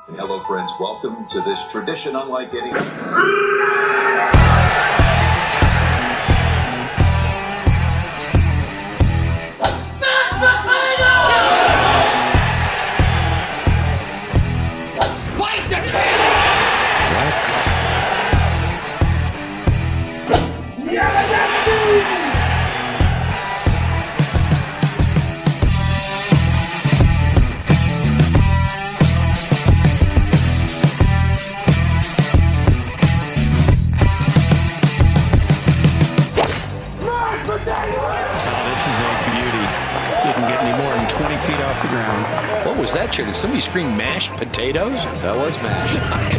Hello, friends. Welcome to this tradition unlike any. Fight the cannon! What? What was that, Chair? Did somebody scream mashed potatoes? That was mashed.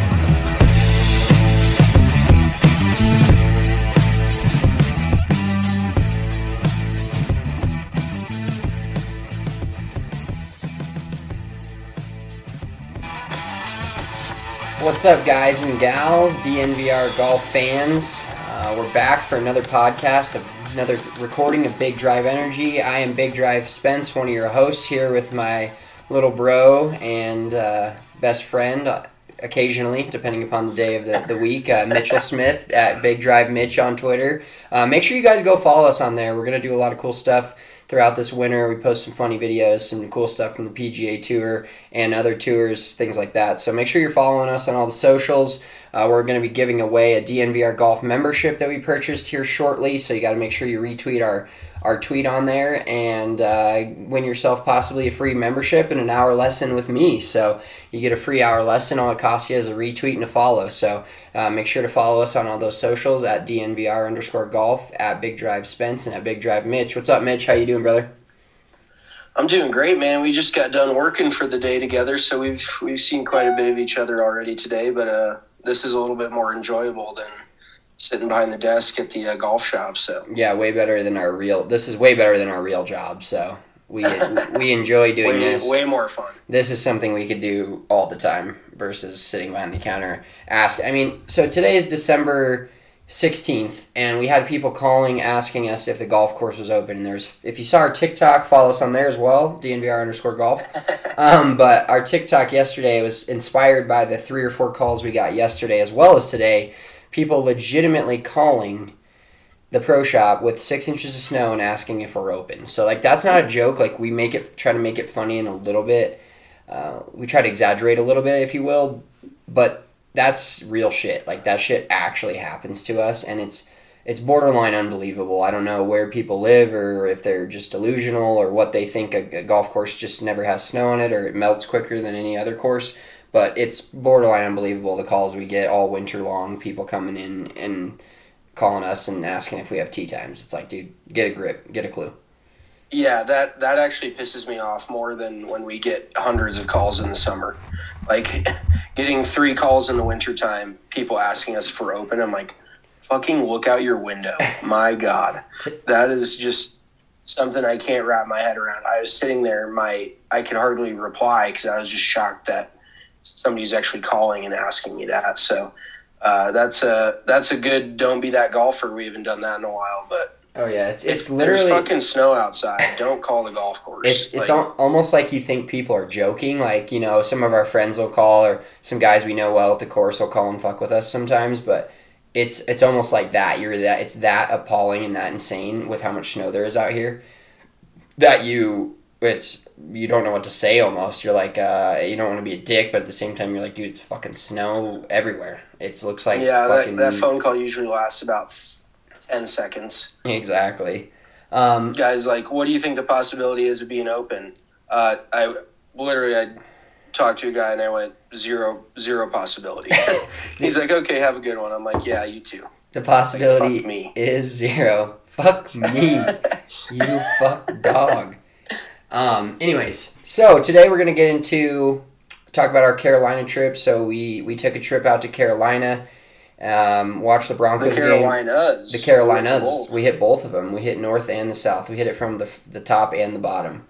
What's up, guys and gals, DNVR golf fans? We're back for another podcast, another recording of Big Drive Energy. I am Big Drive Spence, one of your hosts, here with my little bro and best friend, occasionally, depending upon the day of the week, Mitchell Smith at Big Drive Mitch on Twitter. Make sure you guys go follow us on there. We're going to do a lot of cool stuff throughout this winter. We post some funny videos, some cool stuff from the PGA Tour and other tours, things like that. So make sure you're following us on all the socials. We're going to be giving away a DNVR Golf membership that we purchased here shortly, so you got to make sure you retweet our tweet on there and win yourself possibly a free membership and an hour lesson with me. So you get a free hour lesson. All it costs you is a retweet and a follow. So make sure to follow us on all those socials at DNVR_golf, at Big Drive Spence, and at Big Drive Mitch. What's up, Mitch? How you doing, brother? I'm doing great, man. We just got done working for the day together, so we've seen quite a bit of each other already today, but this is a little bit more enjoyable than sitting behind the desk at the golf shop. So yeah, way better than our real. This is way better than our real job. So we enjoy doing this. Way more fun. This is something we could do all the time versus sitting behind the counter. So today is December 16th, and we had people calling asking us if the golf course was open. And if you saw our TikTok, follow us on there as well, DNVR_golf. But our TikTok yesterday was inspired by the 3 or 4 calls we got yesterday as well as today. People legitimately calling the pro shop with 6 inches of snow and asking if we're open. So, that's not a joke. We try to make it funny and a little bit. We try to exaggerate a little bit, if you will. But that's real shit. That shit actually happens to us, and it's borderline unbelievable. I don't know where people live or if they're just delusional or what they think a golf course just never has snow on it or it melts quicker than any other course. But it's borderline unbelievable, the calls we get all winter long, people coming in and calling us and asking if we have tee times. It's dude, get a grip, get a clue. Yeah, that actually pisses me off more than when we get hundreds of calls in the summer. Getting 3 calls in the wintertime, people asking us if we're open, I'm like, fucking look out your window. My God. That is just something I can't wrap my head around. I was sitting there, I could hardly reply because I was just shocked that somebody's actually calling and asking me that. So that's a good don't be that golfer. We haven't done that in a while, but oh yeah, it's literally there's fucking snow outside. Don't call the golf course. It's almost like you think people are joking. Some of our friends will call, or some guys we know well at the course will call and fuck with us sometimes. But it's almost like that. It's that appalling and that insane with how much snow there is out here that you don't know what to say almost. You're you don't want to be a dick, but at the same time, you're like, dude, it's fucking snow everywhere. It looks like that phone call usually lasts about 10 seconds. Exactly. Guys, what do you think the possibility is of being open? I talked to a guy and I went, zero possibility. He's like, okay, have a good one. I'm like, yeah, you too. The possibility fuck me. Is 0. Fuck me. You fuck dog. Anyways, so today we're going to talk about our Carolina trip. So we took a trip out to Carolina, watched the Broncos game. The Carolinas. We hit both of them. We hit north and the south. We hit it from the top and the bottom.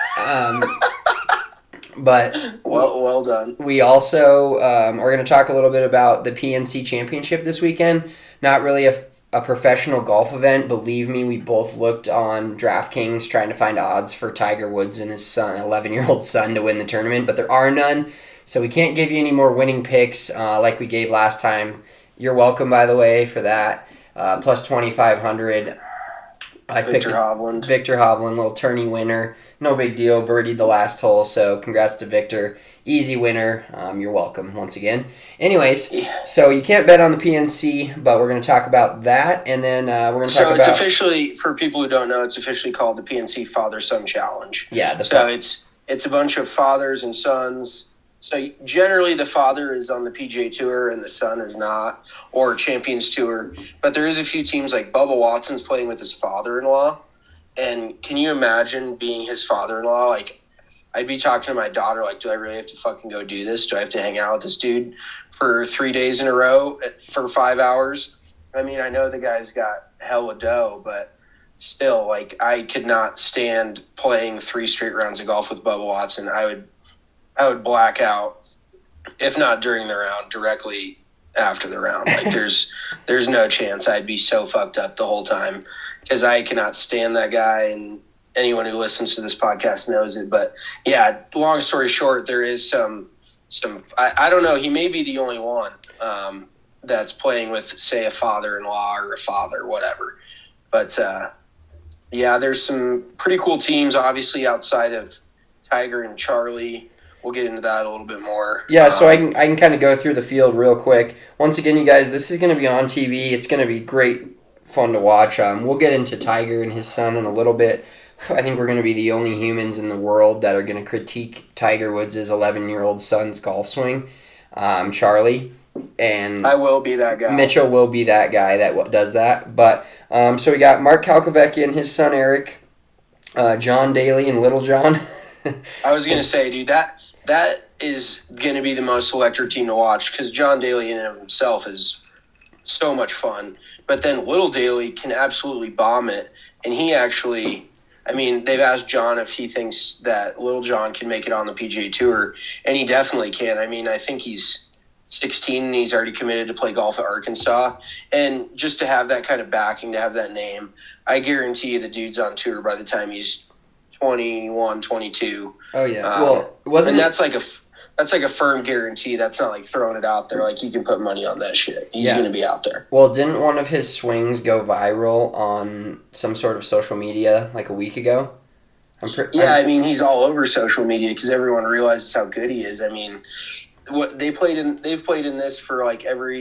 But well done. We also are going to talk a little bit about the PNC Championship this weekend. Not really a professional golf event. Believe me, we both looked on DraftKings trying to find odds for Tiger Woods and his son, 11-year-old son, to win the tournament, but there are none. So we can't give you any more winning picks like we gave last time. You're welcome, by the way, for that. Plus 2,500. I picked Victor Hovland. Victor Hovland, little tourney winner. No big deal. Birdied the last hole, so congrats to Victor. Easy winner. You're welcome once again. Anyways, so you can't bet on the PNC, but we're going to talk about that, and then we're going to talk about... So it's officially, for people who don't know, it's officially called the PNC Father-Son Challenge. Yeah. So it's a bunch of fathers and sons. So generally the father is on the PGA Tour and the son is not, or Champions Tour. But there is a few teams like Bubba Watson's playing with his father-in-law. And can you imagine being his father-in-law? Like, I'd be talking to my daughter, like, do I really have to fucking go do this? Do I have to hang out with this dude for 3 days in a row for 5 hours? I mean, I know the guy's got hella dough, but still, like, I could not stand playing 3 straight rounds of golf with Bubba Watson. I would black out, if not during the round, directly after the round. Like, there's no chance. I'd be so fucked up the whole time because I cannot stand that guy, and anyone who listens to this podcast knows it. But yeah, long story short, there is some. I don't know. He may be the only one that's playing with, say, a father-in-law or a father, whatever. But yeah, there's some pretty cool teams, obviously, outside of Tiger and Charlie. We'll get into that a little bit more. Yeah, so I can kind of go through the field real quick. Once again, you guys, this is going to be on TV. It's going to be great fun to watch. We'll get into Tiger and his son in a little bit. I think we're going to be the only humans in the world that are going to critique Tiger Woods' 11-year-old son's golf swing, Charlie. And I will be that guy. Mitchell will be that guy that does that. But so we got Mark Kalkovecki and his son Eric, John Daly and Little John. I was going to say, dude, that is going to be the most electric team to watch because John Daly in and of himself is so much fun. But then Little Daly can absolutely bomb it. And he actually, I mean, they've asked John if he thinks that Little John can make it on the PGA Tour. And he definitely can. I mean, I think he's 16 and he's already committed to play golf at Arkansas. And just to have that kind of backing, to have that name, I guarantee you the dude's on tour by the time he's 21, 22. Oh yeah. Well, wasn't and that's like a firm guarantee. That's not like throwing it out there. Like you can put money on that shit. He's going to be out there. Well, didn't one of his swings go viral on some sort of social media like a week ago? I mean, he's all over social media because everyone realizes how good he is. I mean, they've played in this for like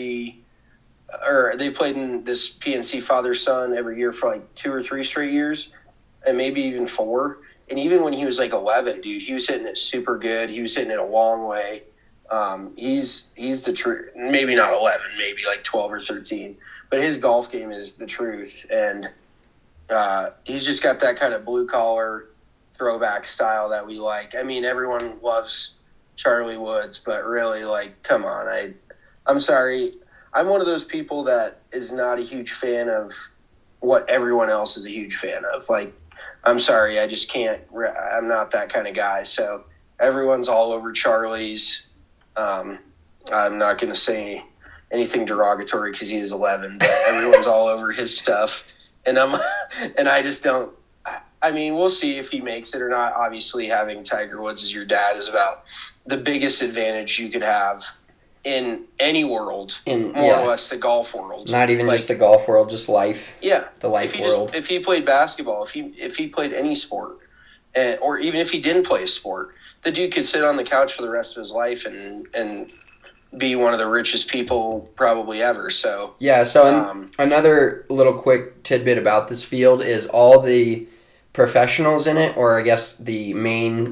they've played in this PNC father-son every year for like 2 or 3 straight years, and maybe even 4. And even when he was like 11, dude, he was hitting it super good. He was hitting it a long way. He's the truth. Maybe not 11, maybe like 12 or 13. But his golf game is the truth. And he's just got that kind of blue-collar throwback style that we like. I mean, everyone loves Charlie Woods, but really, like, come on. I'm sorry. I'm one of those people that is not a huge fan of what everyone else is a huge fan of. Like, I'm sorry, I just can't. I'm not that kind of guy. So everyone's all over Charlie's. I'm not going to say anything derogatory because he is 11, but everyone's all over his stuff. And I just don't. I mean, we'll see if he makes it or not. Obviously, having Tiger Woods as your dad is about the biggest advantage you could have in any world, more or less the golf world. Not even like, just the golf world, just life. Yeah, the life world. If he played basketball, if he played any sport, or even if he didn't play a sport, the dude could sit on the couch for the rest of his life and be one of the richest people probably ever. So yeah. So another little quick tidbit about this field is all the professionals in it, or I guess the main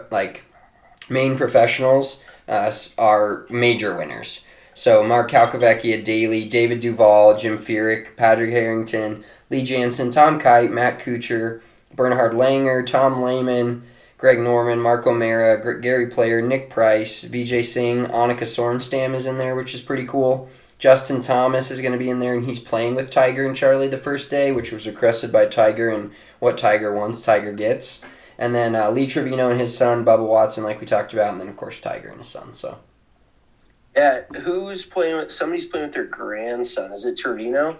professionals. Are major winners. So Mark Kalkovecki at Daly, David Duval, Jim Furyk, Patrick Harrington, Lee Jansen, Tom Kite, Matt Kuchar, Bernhard Langer, Tom Lehman, Greg Norman, Mark O'Mara, Gary Player, Nick Price, Vijay Singh, Annika Sorenstam is in there, which is pretty cool. Justin Thomas is going to be in there, and he's playing with Tiger and Charlie the first day, which was requested by Tiger, and what Tiger wants, Tiger gets. And then Lee Trevino and his son, Bubba Watson, like we talked about, and then, of course, Tiger and his son. So, yeah, who's playing with – somebody's playing with their grandson. Is it Trevino?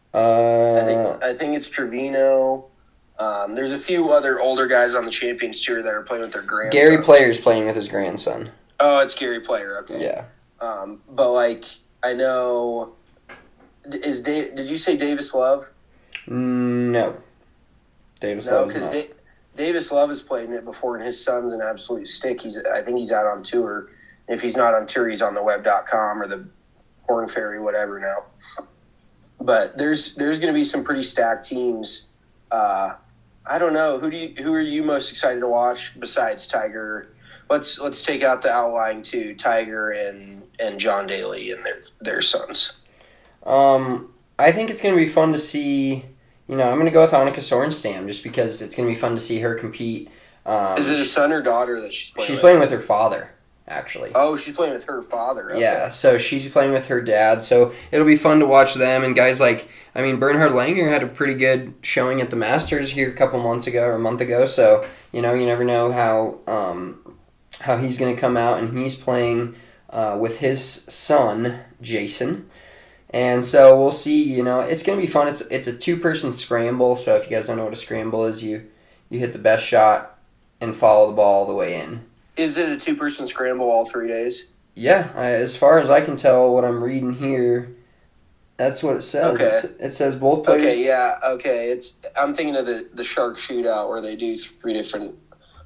I think it's Trevino. There's a few other older guys on the Champions Tour that are playing with their grandson. Gary Player's playing with his grandson. Oh, it's Gary Player. Okay. Yeah. But like I know, did you say Davis Love? No. Davis No, Love is because not. Davis Love has played in it before, and his son's an absolute stick. I think he's out on tour. If he's not on tour, he's on the web.com or the Corn Ferry, whatever now. But there's going to be some pretty stacked teams. I don't know who are you most excited to watch besides Tiger? Let's take out the outlying two, Tiger and John Daly and their sons. I think it's going to be fun to see. I'm going to go with Annika Sorenstam just because it's going to be fun to see her compete. Is it a son or daughter that she's playing? She's playing with her father, actually. Oh, she's playing with her father. Okay. Yeah, so she's playing with her dad. So it'll be fun to watch them. And guys like, Bernhard Langer had a pretty good showing at the Masters here a couple months ago or a month ago. So, you never know how he's going to come out. And he's playing with his son, Jason. And so we'll see, it's going to be fun. It's a two-person scramble. So if you guys don't know what a scramble is, you hit the best shot and follow the ball all the way in. Is it a two-person scramble all 3 days? Yeah, as far as I can tell, what I'm reading here, that's what it says. Okay. It says both players. Okay, yeah, okay. I'm thinking of the Shark Shootout where they do three different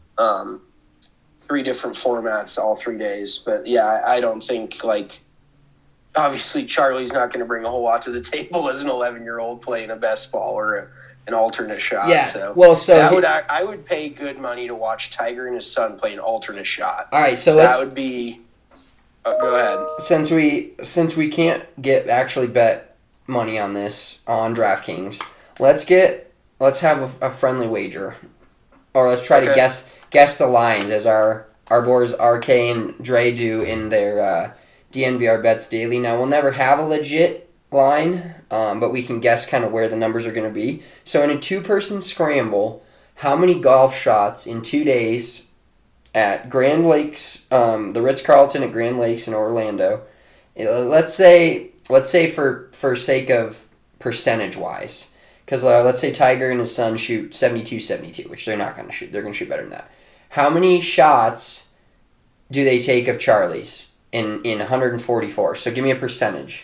formats all 3 days. But yeah, I don't think obviously Charlie's not going to bring a whole lot to the table as an 11-year-old playing a best ball or an alternate shot. Yeah. So I would pay good money to watch Tiger and his son play an alternate shot. All right, so that would be. Go ahead. Since we can't actually bet money on this on DraftKings, let's have a friendly wager, or let's try to guess the lines as our boys RK and Dre do in their DNVR Bets Daily. Now we'll never have a legit line, but we can guess kind of where the numbers are going to be. So in a two-person scramble, how many golf shots in 2 days at Grand Lakes, the Ritz-Carlton at Grand Lakes in Orlando? Let's say for sake of percentage-wise, because let's say Tiger and his son shoot 72-72, which they're not going to shoot. They're going to shoot better than that. How many shots do they take of Charlie's in 144? So give me a percentage.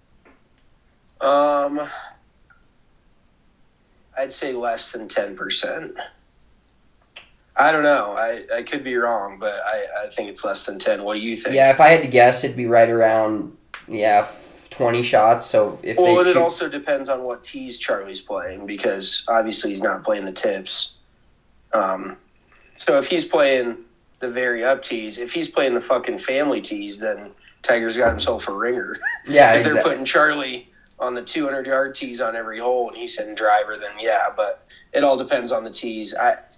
I'd say less than 10%. I don't know. I could be wrong, but I think it's less than 10. What do you think? Yeah, if I had to guess, it'd be right around 20 shots. So it also depends on what tees Charlie's playing, because obviously he's not playing the tips. So if he's playing the very up tees, if he's playing the fucking family tees, then Tiger's got himself a ringer. Yeah, if they're putting Charlie on the 200-yard tees on every hole and he's hitting driver, then yeah. But it all depends on the tees.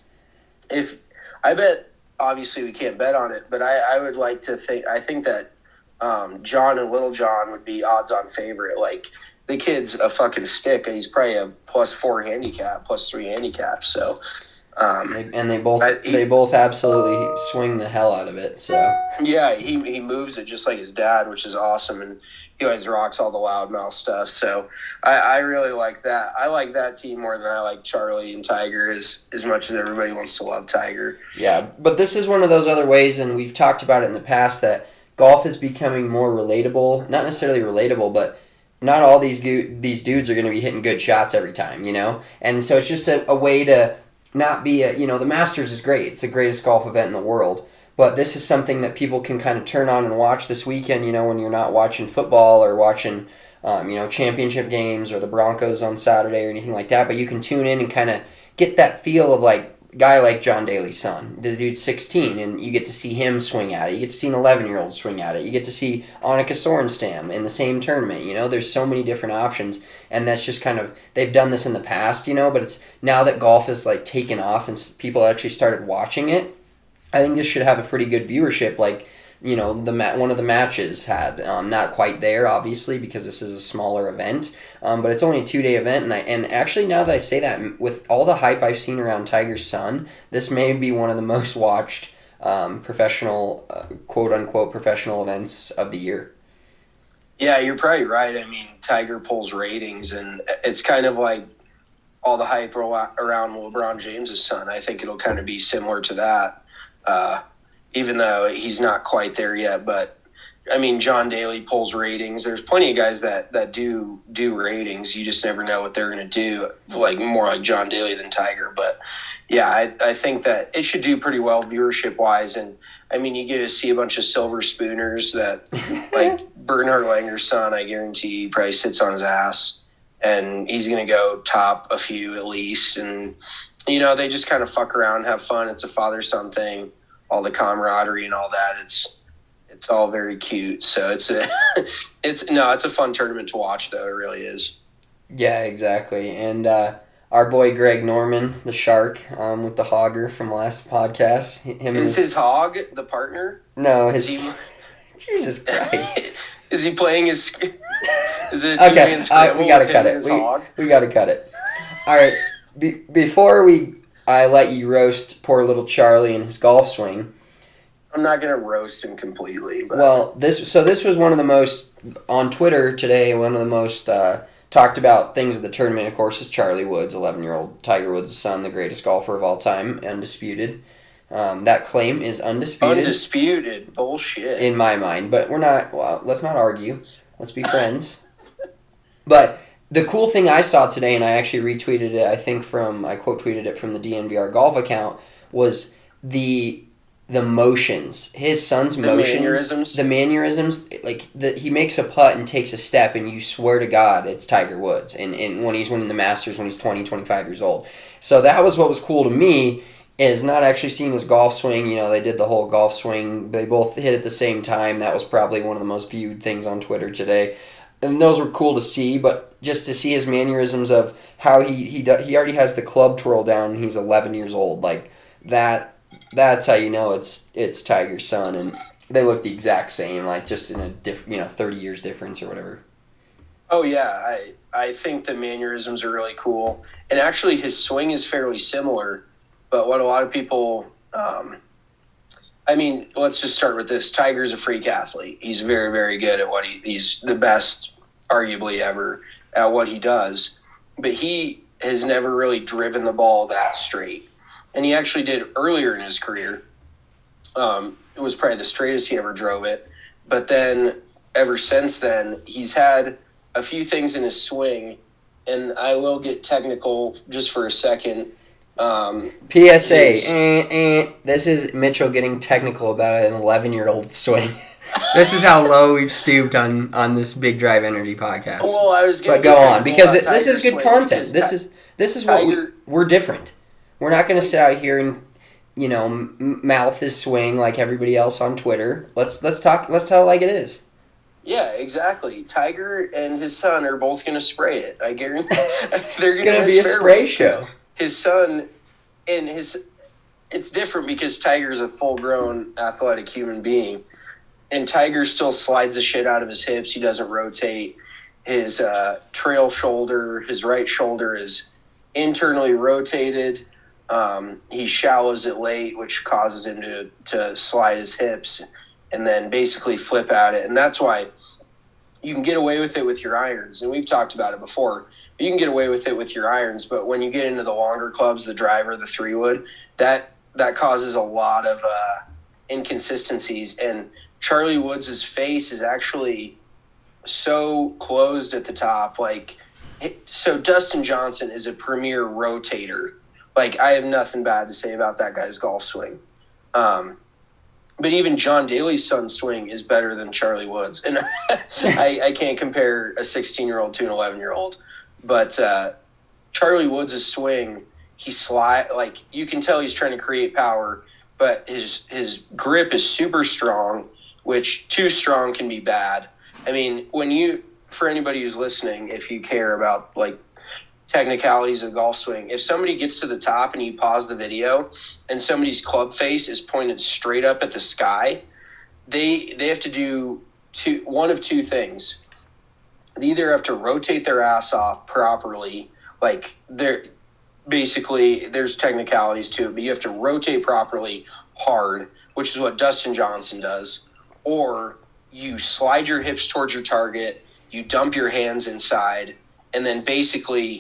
I bet, obviously we can't bet on it, but I would like to think, I think that John and Little John would be odds-on favorite. Like, the kid's a fucking stick. He's probably a +4 handicap, +3 handicap. So, they both absolutely swing the hell out of it. So yeah, he moves it just like his dad, which is awesome, and he always rocks all the loudmouth stuff. So I really like that. I like that team more than I like Charlie and Tiger as much as everybody wants to love Tiger. Yeah, but this is one of those other ways, and we've talked about it in the past, that golf is becoming more relatable. Not necessarily relatable, but not all these dudes are going to be hitting good shots every time, And so it's just a way to not be the Masters is great. It's the greatest golf event in the world. But this is something that people can kind of turn on and watch this weekend, when you're not watching football or watching, championship games or the Broncos on Saturday or anything like that. But you can tune in and kind of get that feel of a guy like John Daly's son. The dude's 16, and you get to see him swing at it. You get to see an 11-year-old swing at it. You get to see Annika Sorenstam in the same tournament. There's so many different options, and that's just kind of, they've done this in the past, but it's now that golf is taken off and people actually started watching it. I think this should have a pretty good viewership, one of the matches had. Not quite there, obviously, because this is a smaller event, but it's only a 2-day event, and actually, now that I say that, with all the hype I've seen around Tiger's son, this may be one of the most watched professional, quote-unquote, professional events of the year. Yeah, you're probably right. I mean, Tiger pulls ratings, and it's kind of like all the hype around LeBron James' son. I think it'll kind of be similar to that. even though he's not quite there yet. But I mean, John Daly pulls ratings. There's plenty of guys that do ratings. You just never know what they're going to do, like more like John Daly than Tiger. But yeah, I think that it should do pretty well viewership wise. And I mean, you get to see a bunch of silver spooners that, like Bernhard Langer's son, I guarantee probably sits on his ass, and he's going to go top a few at least. And, you know, they just kind of fuck around, have fun. It's a father-son thing, all the camaraderie and all that. It's all very cute. So it's a fun tournament to watch, though. It really is. Yeah, exactly. And our boy Greg Norman, the shark, with the hogger from last podcast. His hog the partner? No, Jesus Christ. Is he playing his? Is it okay? We gotta cut it. We gotta cut it. All right. Before I let you roast poor little Charlie and his golf swing. I'm not gonna roast him completely. But. Well, this was one of the most on Twitter today. One of the most talked about things of the tournament, of course, is Charlie Woods, 11-year-old Tiger Woods' son, the greatest golfer of all time, undisputed. That claim is undisputed. Undisputed bullshit in my mind, but we're not. Well, let's not argue. Let's be friends. But the cool thing I saw today, and I actually retweeted it. I quote tweeted it from the DNVR golf account, was the motions, his son's motions, the mannerisms, like he makes a putt and takes a step, and you swear to God it's Tiger Woods, and when he's winning the Masters when he's 20, 25 years old. So that was what was cool to me, is not actually seeing his golf swing. You know, they did the whole golf swing, they both hit at the same time. That was probably one of the most viewed things on Twitter today, and those were cool to see. But just to see his mannerisms of how he already has the club twirl down, and he's 11 years old, like that. That's how you know it's Tiger's son, and they look the exact same, like just in a 30 years difference or whatever. Oh yeah, I think the mannerisms are really cool, and actually his swing is fairly similar. But what a lot of people, I mean, let's just start with this. Tiger's a freak athlete. He's very, very good at what he's the best, arguably ever, at what he does. But he has never really driven the ball that straight. And he actually did earlier in his career. It was probably the straightest he ever drove it. But then, ever since then, he's had a few things in his swing, and I will get technical just for a second. PSA, this is Mitchell getting technical about an 11-year-old swing. This is how low we've stooped on this Big Drive Energy podcast. Well, I was but go on, because this is good content. This is what we're different. We're not going to sit out here and, you know, mouth his swing like everybody else on Twitter. Let's tell it like it is. Yeah, exactly. Tiger and his son are both going to spray it. I guarantee they're going to be a spray show. His son and it's different because Tiger's a full-grown athletic human being, and Tiger still slides the shit out of his hips. He doesn't rotate. His trail shoulder, his right shoulder is internally rotated. He shallows it late, which causes him to slide his hips and then basically flip at it. And that's why you can get away with it with your irons. And we've talked about it before. You can get away with it with your irons, but when you get into the longer clubs, the driver, the 3-wood, that causes a lot of inconsistencies. And Charlie Woods' face is actually so closed at the top. So Dustin Johnson is a premier rotator. Like, I have nothing bad to say about that guy's golf swing. But even John Daly's son's swing is better than Charlie Woods. And I can't compare a 16-year-old to an 11-year-old. But Charlie Woods' swing, you can tell he's trying to create power, but his grip is super strong, which too strong can be bad. I mean, for anybody who's listening, if you care about, like, technicalities of golf swing, if somebody gets to the top and you pause the video and somebody's club face is pointed straight up at the sky, they have to do one of two things. They either have to rotate their ass off properly, like there's technicalities to it, but you have to rotate properly hard, which is what Dustin Johnson does, or you slide your hips towards your target, you dump your hands inside, and then basically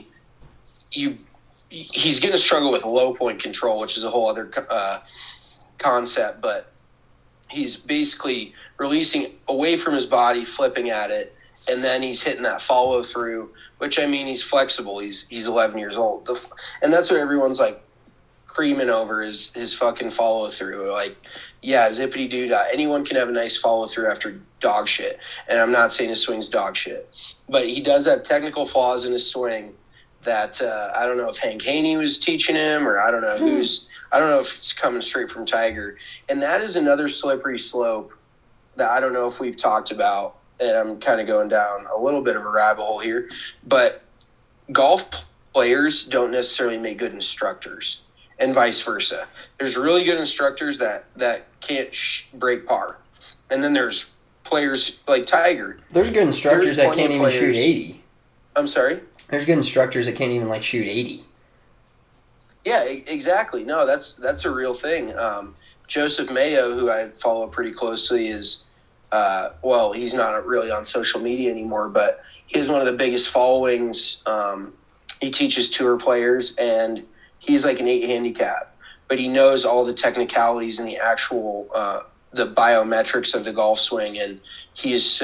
he's going to struggle with low point control, which is a whole other concept. But he's basically releasing away from his body, flipping at it, and then he's hitting that follow through. Which, I mean, he's flexible. He's 11 years old, and that's what everyone's like creaming over his fucking follow through. Like, yeah, zippity doo dah. Anyone can have a nice follow through after dog shit, and I'm not saying his swing's dog shit, but he does have technical flaws in his swing that I don't know if Hank Haney was teaching him, or I don't know I don't know if it's coming straight from Tiger, and that is another slippery slope that I don't know if we've talked about. And I'm kind of going down a little bit of a rabbit hole here, but golf players don't necessarily make good instructors, and vice versa. There's really good instructors that can't break par, and then there's players like Tiger. There's good instructors that can't even shoot 80. I'm sorry? There's good instructors that can't even like shoot 80. Yeah, exactly. No, that's a real thing. Joseph Mayo, who I follow pretty closely, is he's not really on social media anymore, but he has one of the biggest followings. He teaches tour players, and he's like an 8 handicap, but he knows all the technicalities and the actual the biometrics of the golf swing, and he is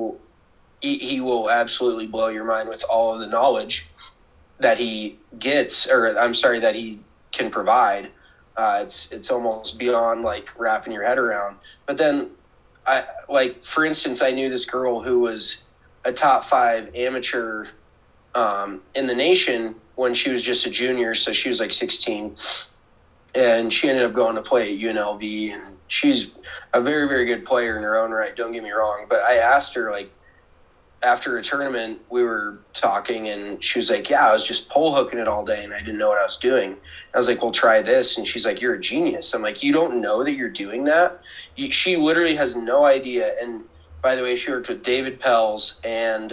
he will absolutely blow your mind with all of the knowledge that he gets, that he can provide. It's almost beyond like wrapping your head around. But then, for instance, I knew this girl who was a top 5 amateur in the nation when she was just a junior, so she was like 16, and she ended up going to play at UNLV, and she's a very, very good player in her own right, don't get me wrong. But I asked her, like, after a tournament, we were talking, and she was like, yeah, I was just pole hooking it all day, and I didn't know what I was doing. I was like, well, try this. And she's like, you're a genius. I'm like, you don't know that you're doing that? She literally has no idea. And by the way, she worked with David Pells and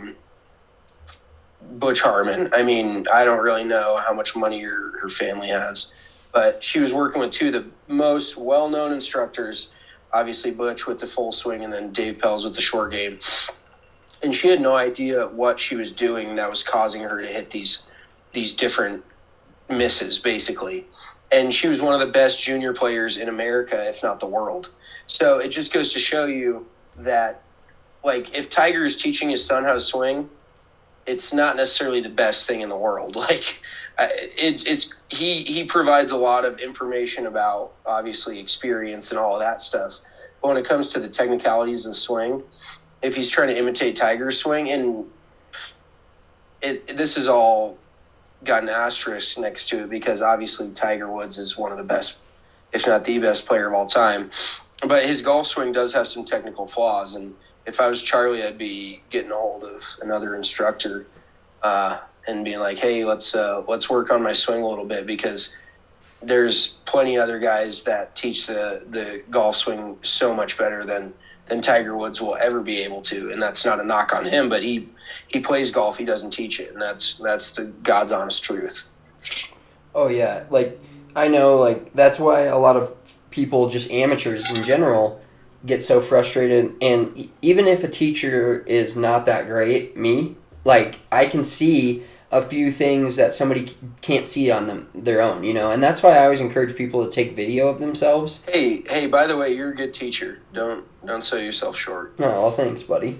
Butch Harmon. I mean, I don't really know how much money her family has, but she was working with 2 of the most well-known instructors, obviously Butch with the full swing and then Dave Pells with the short game. And she had no idea what she was doing that was causing her to hit these different misses, basically. And she was one of the best junior players in America, if not the world. So it just goes to show you that, like, if Tiger is teaching his son how to swing, it's not necessarily the best thing in the world. Like, he provides a lot of information about, obviously, experience and all of that stuff. But when it comes to the technicalities of the swing, if he's trying to imitate Tiger's swing, and this is all got an asterisk next to it because obviously Tiger Woods is one of the best, if not the best player of all time. But his golf swing does have some technical flaws, and if I was Charlie, I'd be getting a hold of another instructor and being like, hey, let's work on my swing a little bit, because there's plenty other guys that teach the golf swing so much better than Tiger Woods will ever be able to. And that's not a knock on him, but he plays golf, he doesn't teach it, and that's the God's honest truth. Oh yeah, like, I know, like, that's why a lot of people, just amateurs in general, get so frustrated. And even if a teacher is not that great, like, I can see a few things that somebody can't see on their own, you know? And that's why I always encourage people to take video of themselves. Hey, by the way, you're a good teacher. Don't sell yourself short. Oh, well, thanks, buddy.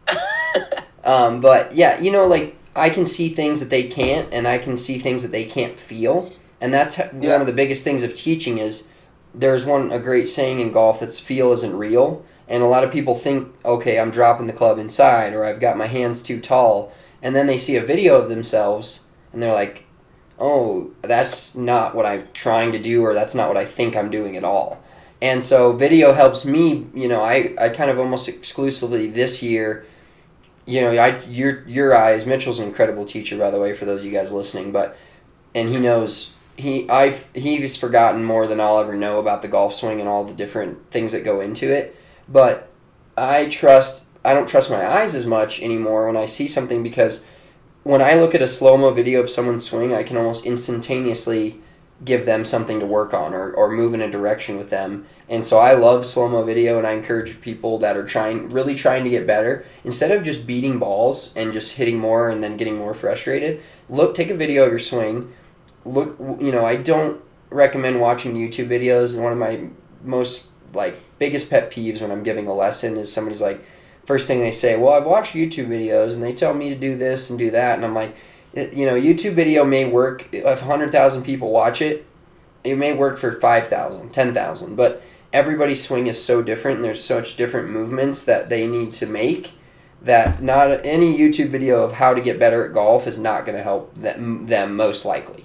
But, yeah, you know, like, I can see things that they can't, and I can see things that they can't feel. And that's one of the biggest things of teaching is there's a great saying in golf that's feel isn't real. And a lot of people think, okay, I'm dropping the club inside, or I've got my hands too tall. And then they see a video of themselves, and they're like, oh, that's not what I'm trying to do, or that's not what I think I'm doing at all. And so video helps me, you know, I kind of almost exclusively this year, you know, your eyes, Mitchell's an incredible teacher, by the way, for those of you guys listening, and he knows, he's forgotten more than I'll ever know about the golf swing and all the different things that go into it. But I don't trust my eyes as much anymore when I see something, because when I look at a slow-mo video of someone's swing, I can almost instantaneously give them something to work on or move in a direction with them. And so I love slow-mo video, and I encourage people that are really trying to get better, instead of just beating balls and just hitting more and then getting more frustrated, take a video of your swing. Look, you know, I don't recommend watching YouTube videos. One of my most, like, biggest pet peeves when I'm giving a lesson is somebody's like, first thing they say, well, I've watched YouTube videos and they tell me to do this and do that. And I'm like, YouTube video may work if 100,000 people watch it. It may work for 5,000, 10,000, but everybody's swing is so different and there's such different movements that they need to make that not any YouTube video of how to get better at golf is not going to help them most likely.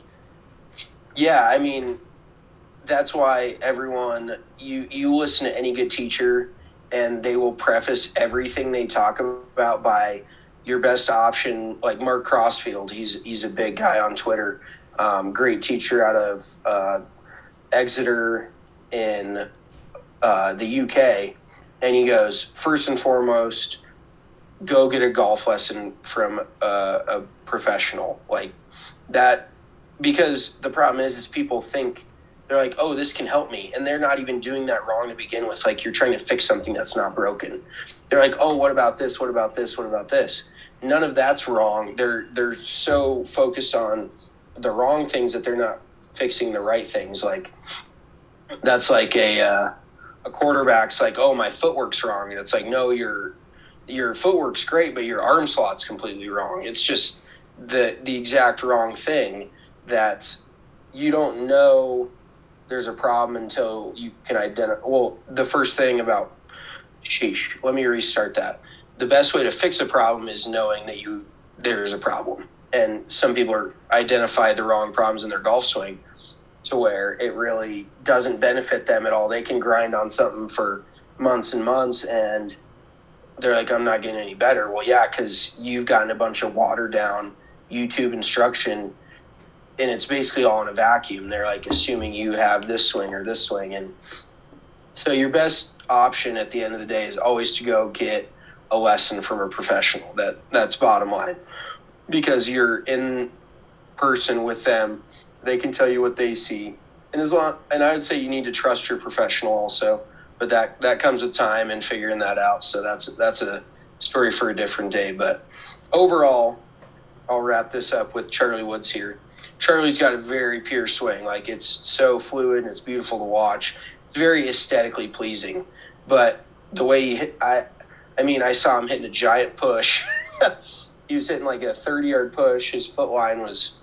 Yeah, I mean, that's why everyone, you listen to any good teacher and they will preface everything they talk about by your best option, like Mark Crossfield. He's a big guy on Twitter. Great teacher out of Exeter in the UK. And he goes, first and foremost, go get a golf lesson from a professional. Like that, because the problem is people think, they're like, oh, this can help me. And they're not even doing that wrong to begin with. Like, you're trying to fix something that's not broken. They're like, oh, what about this? What about this? What about this? None of that's wrong. They're so focused on the wrong things that they're not fixing the right things. Like, that's like a quarterback's like, oh, my footwork's wrong. And it's like, no, your footwork's great, but your arm slot's completely wrong. It's just the exact wrong thing that you don't know there's a problem until you can identify. Well, the first thing about, let me restart that. The best way to fix a problem is knowing that there is a problem. And some people identify the wrong problems in their golf swing to where it really doesn't benefit them at all. They can grind on something for months and months and they're like, I'm not getting any better. Well, yeah, because you've gotten a bunch of watered down YouTube instruction and it's basically all in a vacuum. They're like assuming you have this swing or this swing. And so your best option at the end of the day is always to go get a lesson from a professional. That's bottom line. Because you're in person with them, they can tell you what they see. And I would say you need to trust your professional also, but that comes with time and figuring that out. So that's a story for a different day. But overall, I'll wrap this up with Charlie Woods here. Charlie's got a very pure swing. Like, it's so fluid and it's beautiful to watch. It's very aesthetically pleasing. But the way he hit, I saw him hitting a giant push. He was hitting like a 30-yard push. His foot line was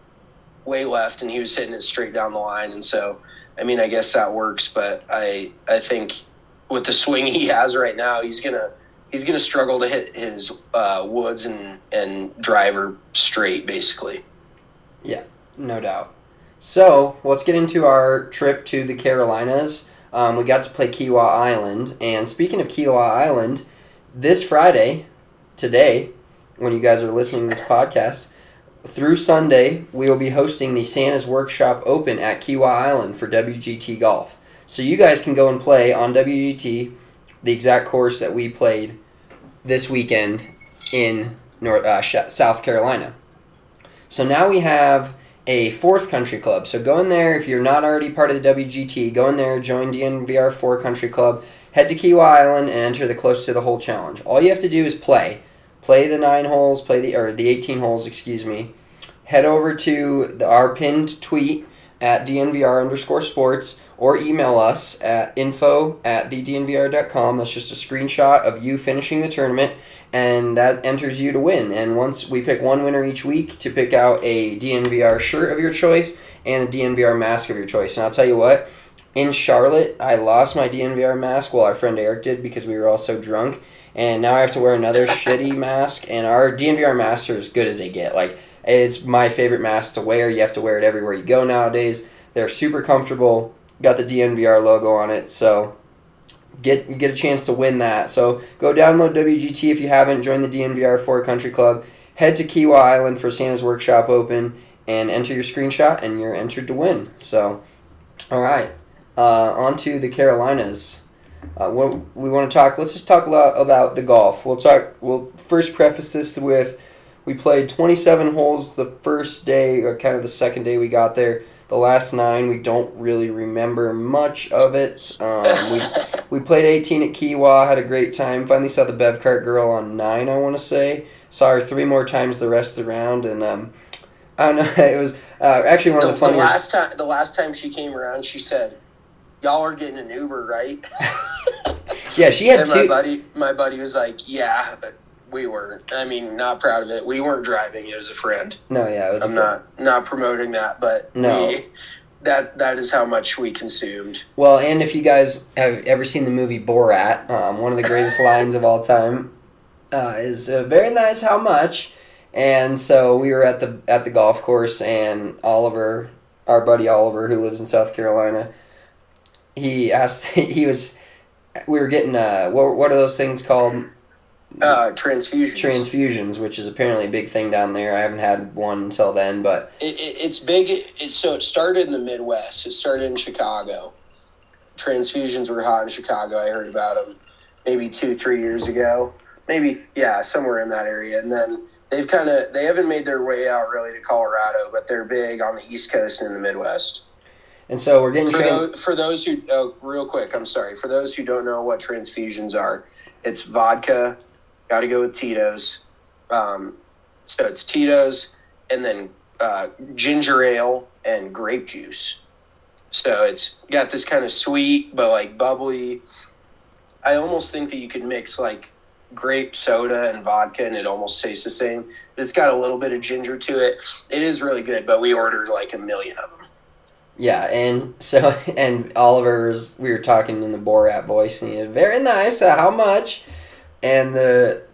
way left, and he was hitting it straight down the line. And so, I guess that works. But I think with the swing he has right now, he's gonna struggle to hit his woods and driver straight, basically. Yeah, no doubt. So let's get into our trip to the Carolinas. We got to play Kiawah Island. And speaking of Kiawah Island, this Friday, today, when you guys are listening to this podcast, through Sunday, we will be hosting the Santa's Workshop Open at Kiawah Island for WGT Golf. So you guys can go and play on WGT the exact course that we played this weekend in South Carolina. So now we have a fourth country club. So go in there, if you're not already part of the WGT, go in there, join DNVR 4 Country Club, head to Kiawah Island, and enter the Close to the Hole Challenge. All you have to do is play. Play the 9 holes, the 18 holes, Head over to our pinned tweet at DNVR_sports or email us at info@thednvr.com. That's just a screenshot of you finishing the tournament, and that enters you to win. And once we pick one winner each week to pick out a DNVR shirt of your choice and a DNVR mask of your choice. And I'll tell you what, in Charlotte, I lost my DNVR mask. Well, our friend Eric did because we were all so drunk. And now I have to wear another shitty mask. And our DNVR masks are as good as they get. Like, it's my favorite mask to wear. You have to wear it everywhere you go nowadays. They're super comfortable. Got the DNVR logo on it. So you get a chance to win that. So go download WGT if you haven't. Join the DNVR 4 Country Club. Head to Kiawah Island for Santa's Workshop Open. And enter your screenshot and you're entered to win. So, all right. On to the Carolinas. What we want to talk, let's just talk a lot about the golf. We'll first preface this with, we played 27 holes the first day, or kind of the second day we got there. The last 9, we don't really remember much of it. We played 18 at Kiawah, had a great time. Finally saw the Bev Cart girl on 9, I want to say. Saw her 3 more times the rest of the round, and I don't know, it was actually one of the funniest. The last time she came around, she said, y'all are getting an Uber, right? Yeah, she had And two. my buddy was like, yeah, but we weren't. I mean, not proud of it. We weren't driving. It was a friend. No, yeah, it was. I'm not promoting that, but No. that is how much we consumed. Well, and if you guys have ever seen the movie Borat, one of the greatest lines of all time is very nice. How much? And so we were at the golf course, and Oliver, our buddy Oliver, who lives in South Carolina, he asked. We were getting what are those things called? Transfusions. Transfusions, which is apparently a big thing down there. I haven't had one until then, but It's big. So it started in the Midwest. It started in Chicago. Transfusions were hot in Chicago. I heard about them maybe 2-3 years ago. Maybe, yeah, somewhere in that area. And then they haven't made their way out really to Colorado, but they're big on the East Coast and in the Midwest. and so we're getting For those who, real quick, I'm sorry. For those who don't know what transfusions are, it's vodka. Got to go with Tito's. So it's Tito's and then ginger ale and grape juice. So it's got this kind of sweet but like bubbly. I almost think that you could mix like grape soda and vodka and it almost tastes the same. But it's got a little bit of ginger to it. It is really good, but we ordered like 1 million of them. Yeah, and so and we were talking in the Borat voice, and he was very nice. How much? And the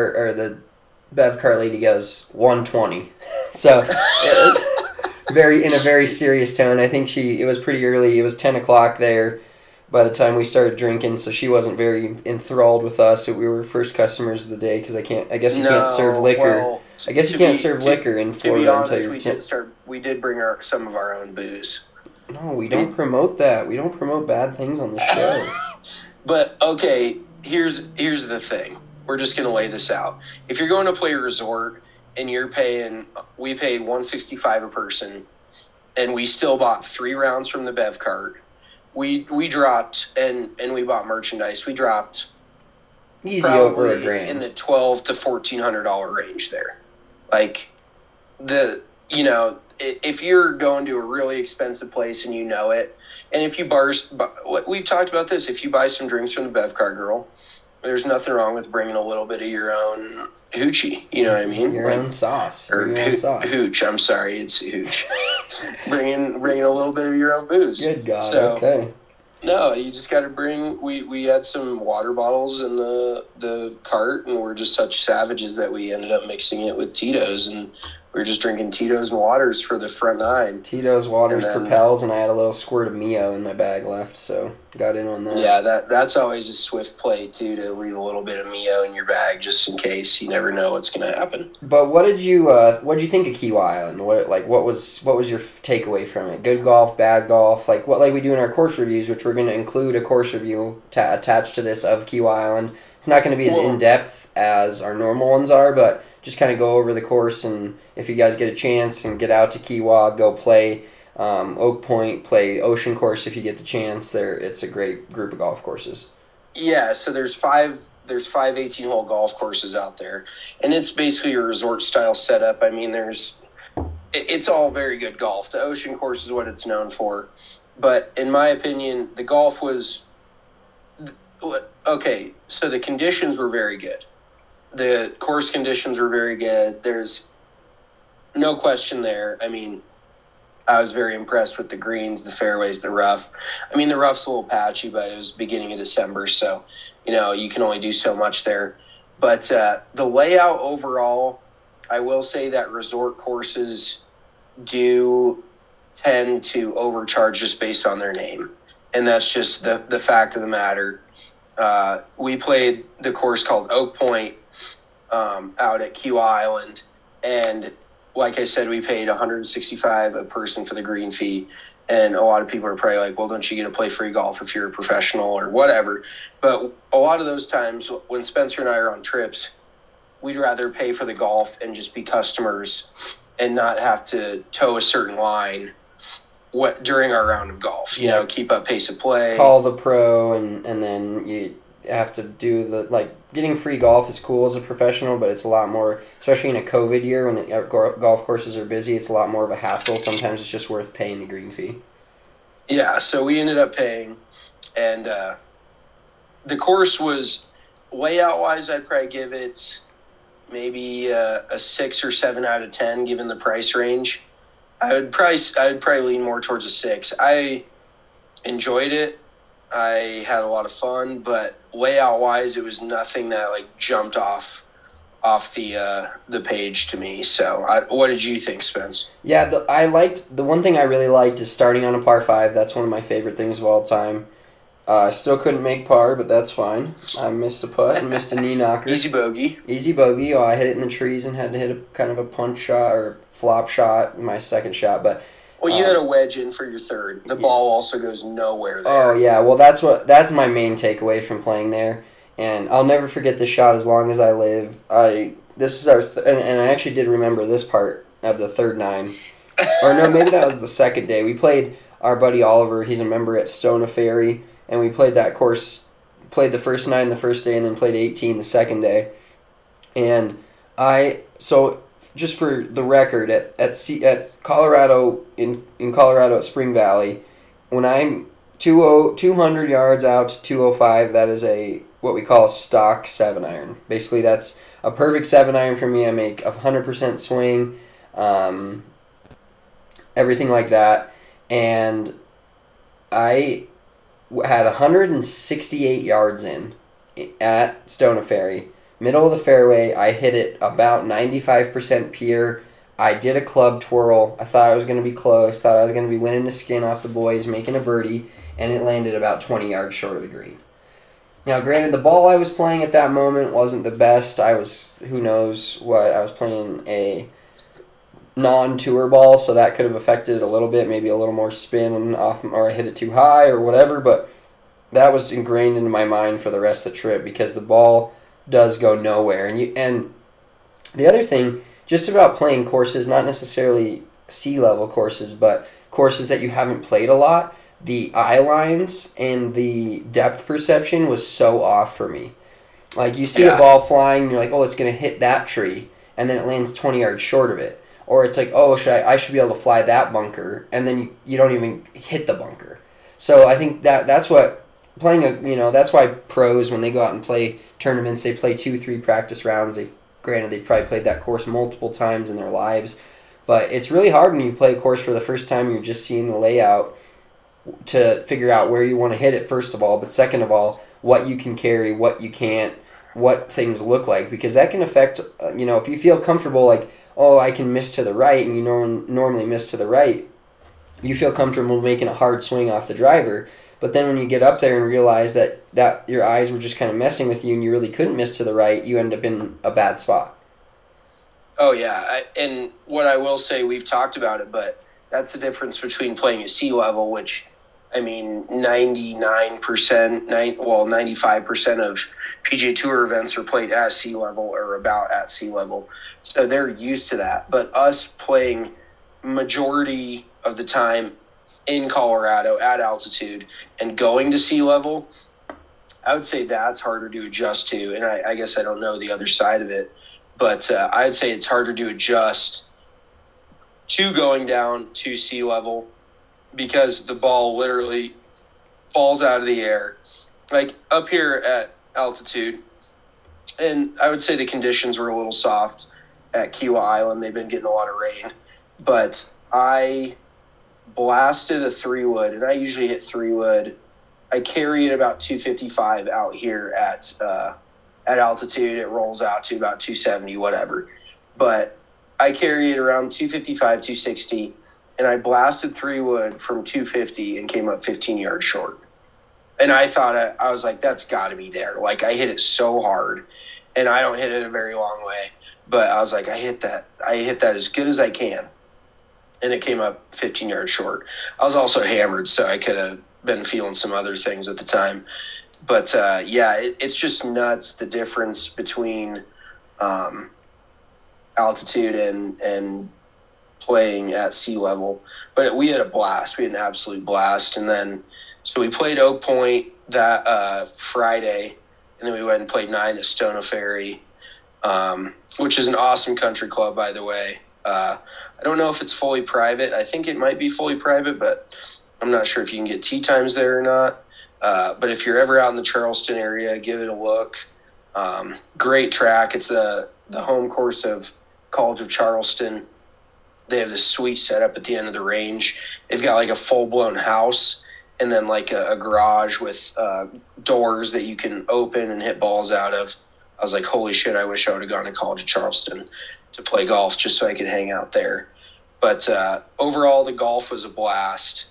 Bev car lady goes 120. So it was in a very serious tone. I think it was pretty early. It was 10 o'clock there by the time we started drinking, so she wasn't very enthralled with us. So we were first customers of the day because I guess you can't serve liquor. Well, I guess you can't serve liquor in Florida until you're 10. We did bring some of our own booze. No, we don't promote that. We don't promote bad things on the show. But okay, here's the thing. We're just gonna lay this out. If you're going to play a resort and we paid $165 a person, and we still bought 3 rounds from the Bev cart. We dropped and we bought merchandise. We dropped Easy over probably $1,000 in the $1,200 to $1,400 range there. Like if you're going to a really expensive place and you know it, and if you we've talked about this, if you buy some drinks from the Bev Car Girl, there's nothing wrong with bringing a little bit of your own hoochie. You know what I mean? Your own sauce. Or your own sauce. Hooch. I'm sorry, it's hooch. bringing a little bit of your own booze. Good God. So, okay. No, you just got to bring. We had some water bottles in the cart, and we're just such savages that we ended up mixing it with Tito's, and we were just drinking Tito's and waters for the front 9. Tito's, waters, And then- Propels, and I had a little squirt of Mio in my bag left, so got in on that. Yeah, that's always a swift play too, to leave a little bit of Mio in your bag just in case. You never know what's going to happen. But what did you think of Kiawah Island? What was your takeaway from it? Good golf, bad golf? Like we do in our course reviews, which we're going to include a course review attached to this of Kiawah Island. It's not going to be as in depth as our normal ones are, but just kind of go over the course, and if you guys get a chance and get out to Kiawah, go play Oak Point, play Ocean Course if you get the chance. It's a great group of golf courses. Yeah, so there's five 18-hole golf courses out there, and it's basically a resort style setup. I mean, it's all very good golf. The Ocean Course is what it's known for, but in my opinion, the golf was okay. So the conditions were very good. The course conditions were very good. There's no question there. I mean, I was very impressed with the greens, the fairways, the rough. I mean, the rough's a little patchy, but it was beginning of December, so, you can only do so much there. But the layout overall, I will say that resort courses do tend to overcharge just based on their name. And that's just the fact of the matter. We played the course called Oak Point, out at Kiawah Island, and like I said, we paid $165 a person for the green fee, and a lot of people are probably like, well, don't you get to play free golf if you're a professional or whatever? But a lot of those times when Spencer and I are on trips, we'd rather pay for the golf and just be customers and not have to toe a certain line during our round of golf. Keep up pace of play. Call the pro, and then you have to do getting free golf is cool as a professional, but it's a lot more, especially in a COVID year when golf courses are busy, it's a lot more of a hassle. Sometimes it's just worth paying the green fee. Yeah, so we ended up paying, and the course was layout wise. I'd probably give it maybe a 6 or 7 out of 10, given the price range. I would probably lean more towards a 6. I enjoyed it. I had a lot of fun, but layout wise, it was nothing that like jumped off the page to me. So, what did you think, Spence? Yeah, the one thing I really liked is starting on a par 5. That's one of my favorite things of all time. I still couldn't make par, but that's fine. I missed a putt and missed a knee knocker. Easy bogey. Easy bogey. Oh, I hit it in the trees and had to hit a kind of a punch shot or flop shot, my second shot. But Well, you had a wedge in for your third. The ball also goes nowhere there. oh yeah, well that's my main takeaway from playing there, and I'll never forget this shot as long as I live. This was our and I actually did remember this part of the third 9, or no, maybe that was the second day. We played our buddy Oliver. He's a member at Stona Ferry. And we played that course, played the first 9 the first day, and then played 18 the second day. And so just for the record, at Colorado, in Colorado at Spring Valley, when I'm 200 yards out to 205, that is what we call a stock 7-iron. Basically, that's a perfect 7-iron for me. I make a 100% swing, everything like that. And I had 168 yards in at Stona Ferry. Middle of the fairway, I hit it about 95% pure. I did a club twirl. I thought I was going to be close. Thought I was going to be winning the skin off the boys, making a birdie, and it landed about 20 yards short of the green. Now, granted, the ball I was playing at that moment wasn't the best. Who knows what, I was playing a non-tour ball, so that could have affected it a little bit, maybe a little more spin off, or I hit it too high or whatever, but that was ingrained into my mind for the rest of the trip because the ball does go nowhere. And the other thing, just about playing courses, not necessarily sea-level courses, but courses that you haven't played a lot, the eye lines and the depth perception was so off for me. Like, you see a ball flying, and you're like, oh, it's going to hit that tree, and then it lands 20 yards short of it. Or it's like, oh, I should be able to fly that bunker, and then you don't even hit the bunker. So I think that's what that's why pros, when they go out and play tournaments, they play 2-3 practice rounds. Granted, they've probably played that course multiple times in their lives, but it's really hard when you play a course for the first time and you're just seeing the layout to figure out where you want to hit it, first of all, but second of all, what you can carry, what you can't, what things look like, because that can affect, if you feel comfortable, like, oh, I can miss to the right, and you normally miss to the right, you feel comfortable making a hard swing off the driver. But then when you get up there and realize that your eyes were just kind of messing with you and you really couldn't miss to the right, you end up in a bad spot. Oh, yeah. And what I will say, we've talked about it, but that's the difference between playing at sea level, which, 95% of PGA Tour events are played at sea level or about at sea level. So they're used to that. But us playing majority of the time in Colorado at altitude and going to sea level, I would say that's harder to adjust to. And I guess I don't know the other side of it, but I'd say it's harder to adjust to going down to sea level because the ball literally falls out of the air. Like up here at altitude, and I would say the conditions were a little soft at Kiawah Island. They've been getting a lot of rain. But I blasted a 3-wood, and I usually hit 3-wood. I carry it about 255 out here at altitude. It rolls out to about 270, whatever. But I carry it around 255, 260, and I blasted 3-wood from 250 and came up 15 yards short. And I thought, I was like, that's got to be there. Like, I hit it so hard, and I don't hit it a very long way. But I was like, I hit that as good as I can. And it came up 15 yards short. I was also hammered, so I could have been feeling some other things at the time. But, it's just nuts, the difference between altitude and playing at sea level. But we had a blast. We had an absolute blast. And then, so we played Oak Point that Friday, and then we went and played 9 at Stona Ferry, which is an awesome country club, by the way. I don't know if it's fully private. I think it might be fully private, but I'm not sure if you can get tee times there or not. But if you're ever out in the Charleston area, give it a look. Great track. It's the home course of College of Charleston. They have this sweet setup at the end of the range. They've got like a full-blown house and then like a garage with doors that you can open and hit balls out of. I was like, holy shit, I wish I would have gone to College of Charleston to play golf just so I could hang out there. But overall, the golf was a blast.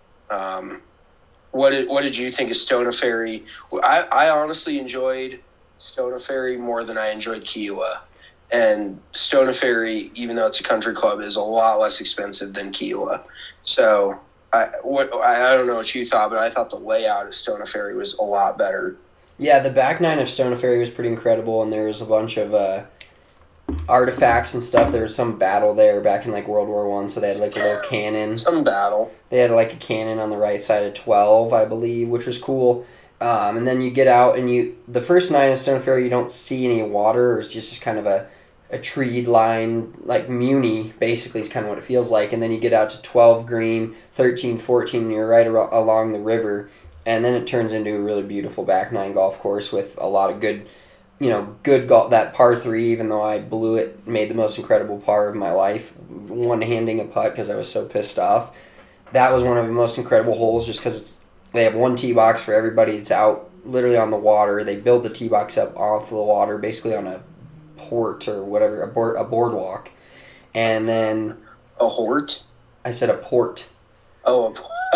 What did you think of Stona Ferry? I honestly enjoyed Stona Ferry more than I enjoyed Kiowa. And Stona Ferry, even though it's a country club, is a lot less expensive than Kiowa. So I don't know what you thought, but I thought the layout of Stona Ferry was a lot better. Yeah, the back nine of Stona Ferry was pretty incredible, and there was a bunch of artifacts and stuff. There was some battle there back in like World War I, so they had like a little cannon. Some battle. They had like a cannon on the right side of 12, I believe, which was cool. And then you get out, and the first nine of Stona Ferry, you don't see any water. It's just kind of a treed line, like Muni, basically, is kind of what it feels like. And then you get out to 12 green, 13, 14, and you're right along the river. And then it turns into a really beautiful back nine golf course with a lot of good golf. That par 3, even though I blew it, made the most incredible par of my life, one-handing a putt because I was so pissed off. That was one of the most incredible holes just because they have one tee box for everybody. It's out literally on the water. They build the tee box up off the water, basically on a port or whatever, a boardwalk. And then... A hort? I said a port. Oh,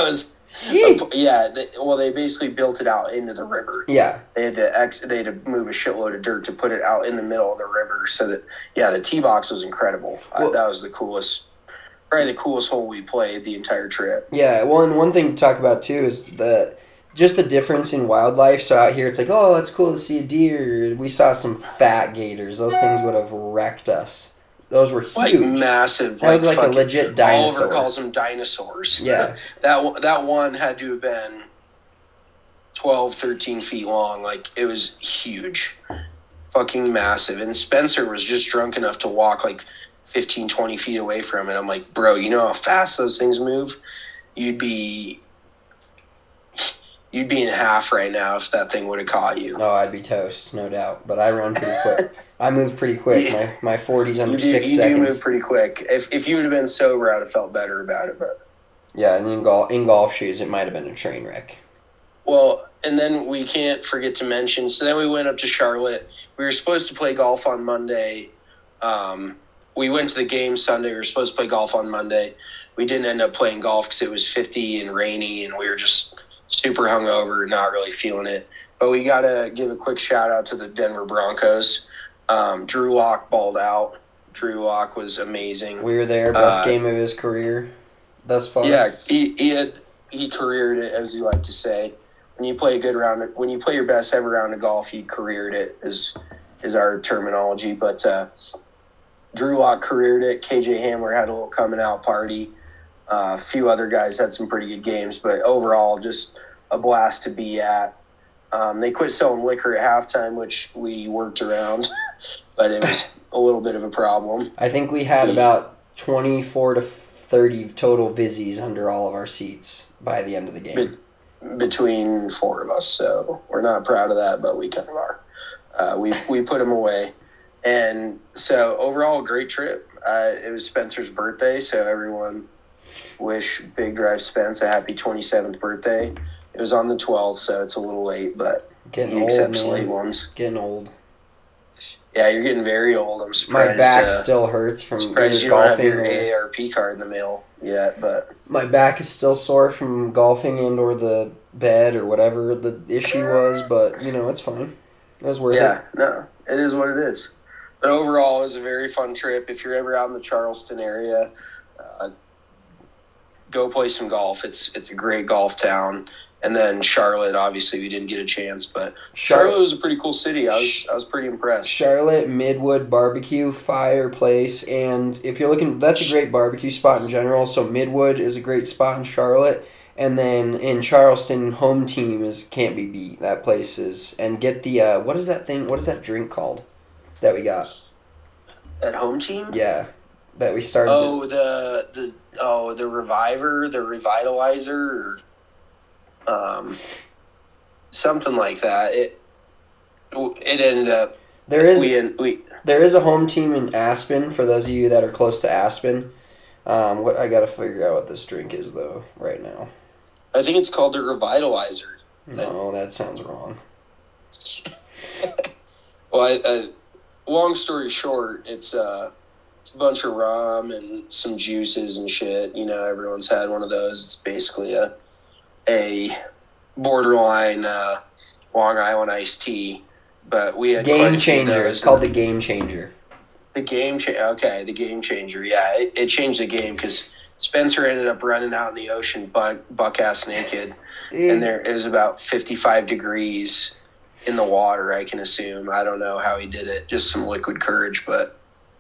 they basically built it out into the river. Yeah. They had to move a shitload of dirt to put it out in the middle of the river so that, the tee box was incredible. That was probably the coolest hole we played the entire trip. Yeah, well, and one thing to talk about, too, is just the difference in wildlife. So out here, it's like, oh, it's cool to see a deer. We saw some fat gators. Those things would have wrecked us. Those were huge. Like massive. That was like a legit dinosaur. Oliver calls them dinosaurs. Yeah. That one had to have been 12, 13 feet long. Like, it was huge. Fucking massive. And Spencer was just drunk enough to walk like 15, 20 feet away from it. I'm like, bro, you know how fast those things move? You'd be in half right now if that thing would have caught you. Oh, I'd be toast, no doubt. But I run pretty quick. I move pretty quick. My 40's under 6 seconds. You do move pretty quick. If you would have been sober, I'd have felt better about it. But yeah, and in golf shoes, it might have been a train wreck. Well, and then we can't forget to mention, so then we went up to Charlotte. We were supposed to play golf on Monday. We went to the game Sunday. We were supposed to play golf on Monday. We didn't end up playing golf because it was 50 and rainy, and we were just super hungover, not really feeling it. But we got to give a quick shout-out to the Denver Broncos. Drew Lock balled out. Drew Lock was amazing. We were there. Best game of his career thus far. Yeah, he careered it, as you like to say. When you play a good round, when you play your best ever round of golf, he careered it, is our terminology. But Drew Lock careered it. KJ Hamler had a little coming out party. A few other guys had some pretty good games, but overall, just a blast to be at. They quit selling liquor at halftime, which we worked around, but it was a little bit of a problem. I think we had about 24 to 30 total Vizzies under all of our seats by the end of the game. Between 4 of us, so we're not proud of that, but we kind of are. We put them away. And so overall, great trip. It was Spencer's birthday, so everyone wish Big Drive Spence a happy 27th birthday. It was on the 12th, so it's a little late, but getting he old, accepts man. late ones. Getting old. Yeah, you're getting very old. I'm surprised. My back still hurts from surprised you golfing. don't have your AARP card in the mail yet, but my back is still sore from golfing and or the bed or whatever the issue was, but it's fine. It was worth it. Yeah, no, it is what it is. But overall, it was a very fun trip. If you're ever out in the Charleston area, go play some golf. It's a great golf town. And then Charlotte, obviously, we didn't get a chance, but Charlotte was a pretty cool city. I was pretty impressed. Charlotte, Midwood Barbecue, fireplace, and if you're looking, that's a great barbecue spot in general. So Midwood is a great spot in Charlotte, and then in Charleston, home team can't be beat. That place is, and get the what is that thing? What is that drink called that we got? At home team? Yeah, that we started. The Reviver, the Revitalizer, or something like that. It ended up. There is a home team in Aspen for those of you that are close to Aspen. What I gotta figure out what this drink is though right now. I think it's called the Revitalizer. No, that sounds wrong. Well, long story short, it's a bunch of rum and some juices and shit. You know, everyone's had one of those. It's basically a borderline Long Island iced tea. But we had Game Changer. It's called the Game Changer. The Game Changer. Okay, the Game Changer. Yeah, it changed the game because Spencer ended up running out in the ocean buck-ass naked. Dude. And it was about 55 degrees in the water, I can assume. I don't know how he did it. Just some liquid courage. But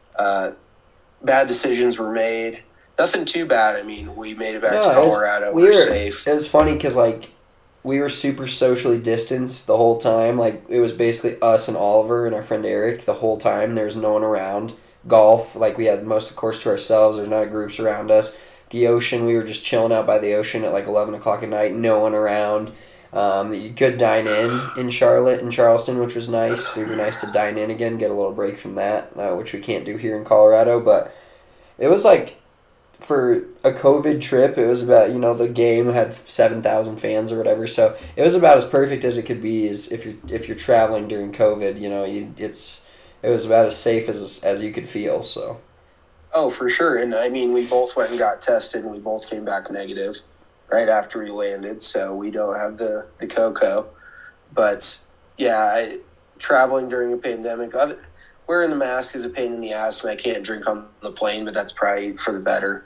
bad decisions were made. Nothing too bad. I mean, we made it back to Colorado. We were safe. It was funny because, like, we were super socially distanced the whole time. Like, it was basically us and Oliver and our friend Eric the whole time. There was no one around. Golf, like, we had most of the course to ourselves. There's not groups around us. The ocean, we were just chilling out by the ocean at like 11 o'clock at night. No one around. You could dine in Charlotte and Charleston, which was nice. It would be nice to dine in again, get a little break from that, which we can't do here in Colorado. But it was like, for a COVID trip, it was about, you know, the game had 7,000 fans or whatever, so it was about as perfect as it could be. As if you're traveling during COVID, you know, it was about as safe as you could feel. So. Oh, for sure, and I mean, we both went and got tested, and we both came back negative right after we landed, so we don't have the cocoa. But yeah, traveling during a pandemic, wearing the mask is a pain in the ass, and I can't drink on the plane, but that's probably for the better.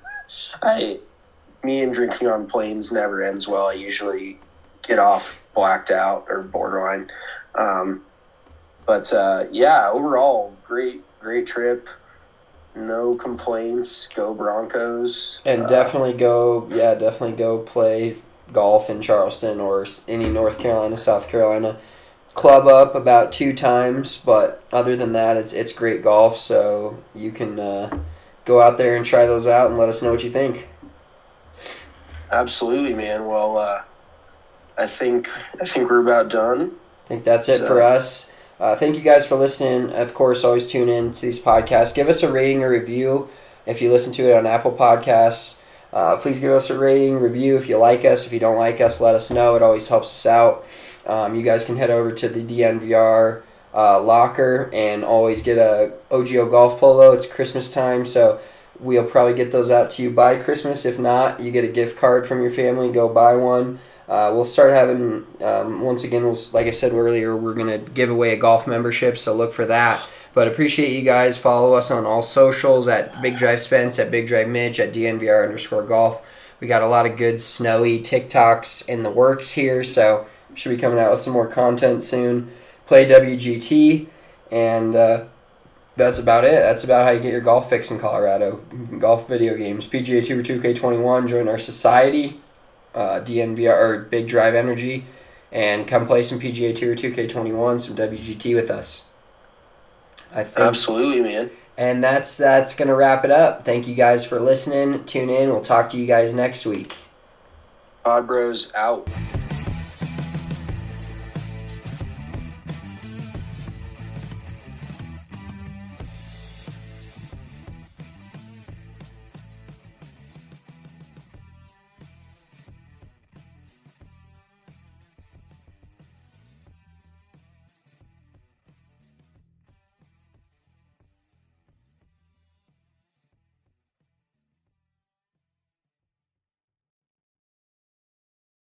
Me and drinking on planes never ends well. I usually get off blacked out or borderline. But overall, great trip. No complaints. Go Broncos. And definitely go play golf in Charleston or any North Carolina, South Carolina. Club up about 2 times, but other than that, it's great golf, so you can go out there and try those out and let us know what you think. Absolutely, man. Well, I think we're about done. I think that's it for us. Thank you guys for listening. Of course, always tune in to these podcasts. Give us a rating or review if you listen to it on Apple Podcasts. Please give us a rating, review if you like us. If you don't like us, let us know. It always helps us out. You guys can head over to the DNVR locker and always get a OGO golf polo. It's Christmas time, so we'll probably get those out to you by Christmas. If not, you get a gift card from your family. Go buy one. We'll start having, once again, like I said earlier, we're going to give away a golf membership, so look for that. But appreciate you guys. Follow us on all socials at Big Drive Spence, at Big Drive Mitch, at DNVR_golf. We got a lot of good snowy TikToks in the works here, so should be coming out with some more content soon. Play WGT, and that's about it. That's about how you get your golf fix in Colorado. Golf video games, PGA Tour 2K21, join our society. DNVR or Big Drive Energy, and come play some PGA Tour 2K21, some WGT with us. I think. Absolutely, man. And that's going to wrap it up. Thank you guys for listening. Tune in. We'll talk to you guys next week. Pod Bros out.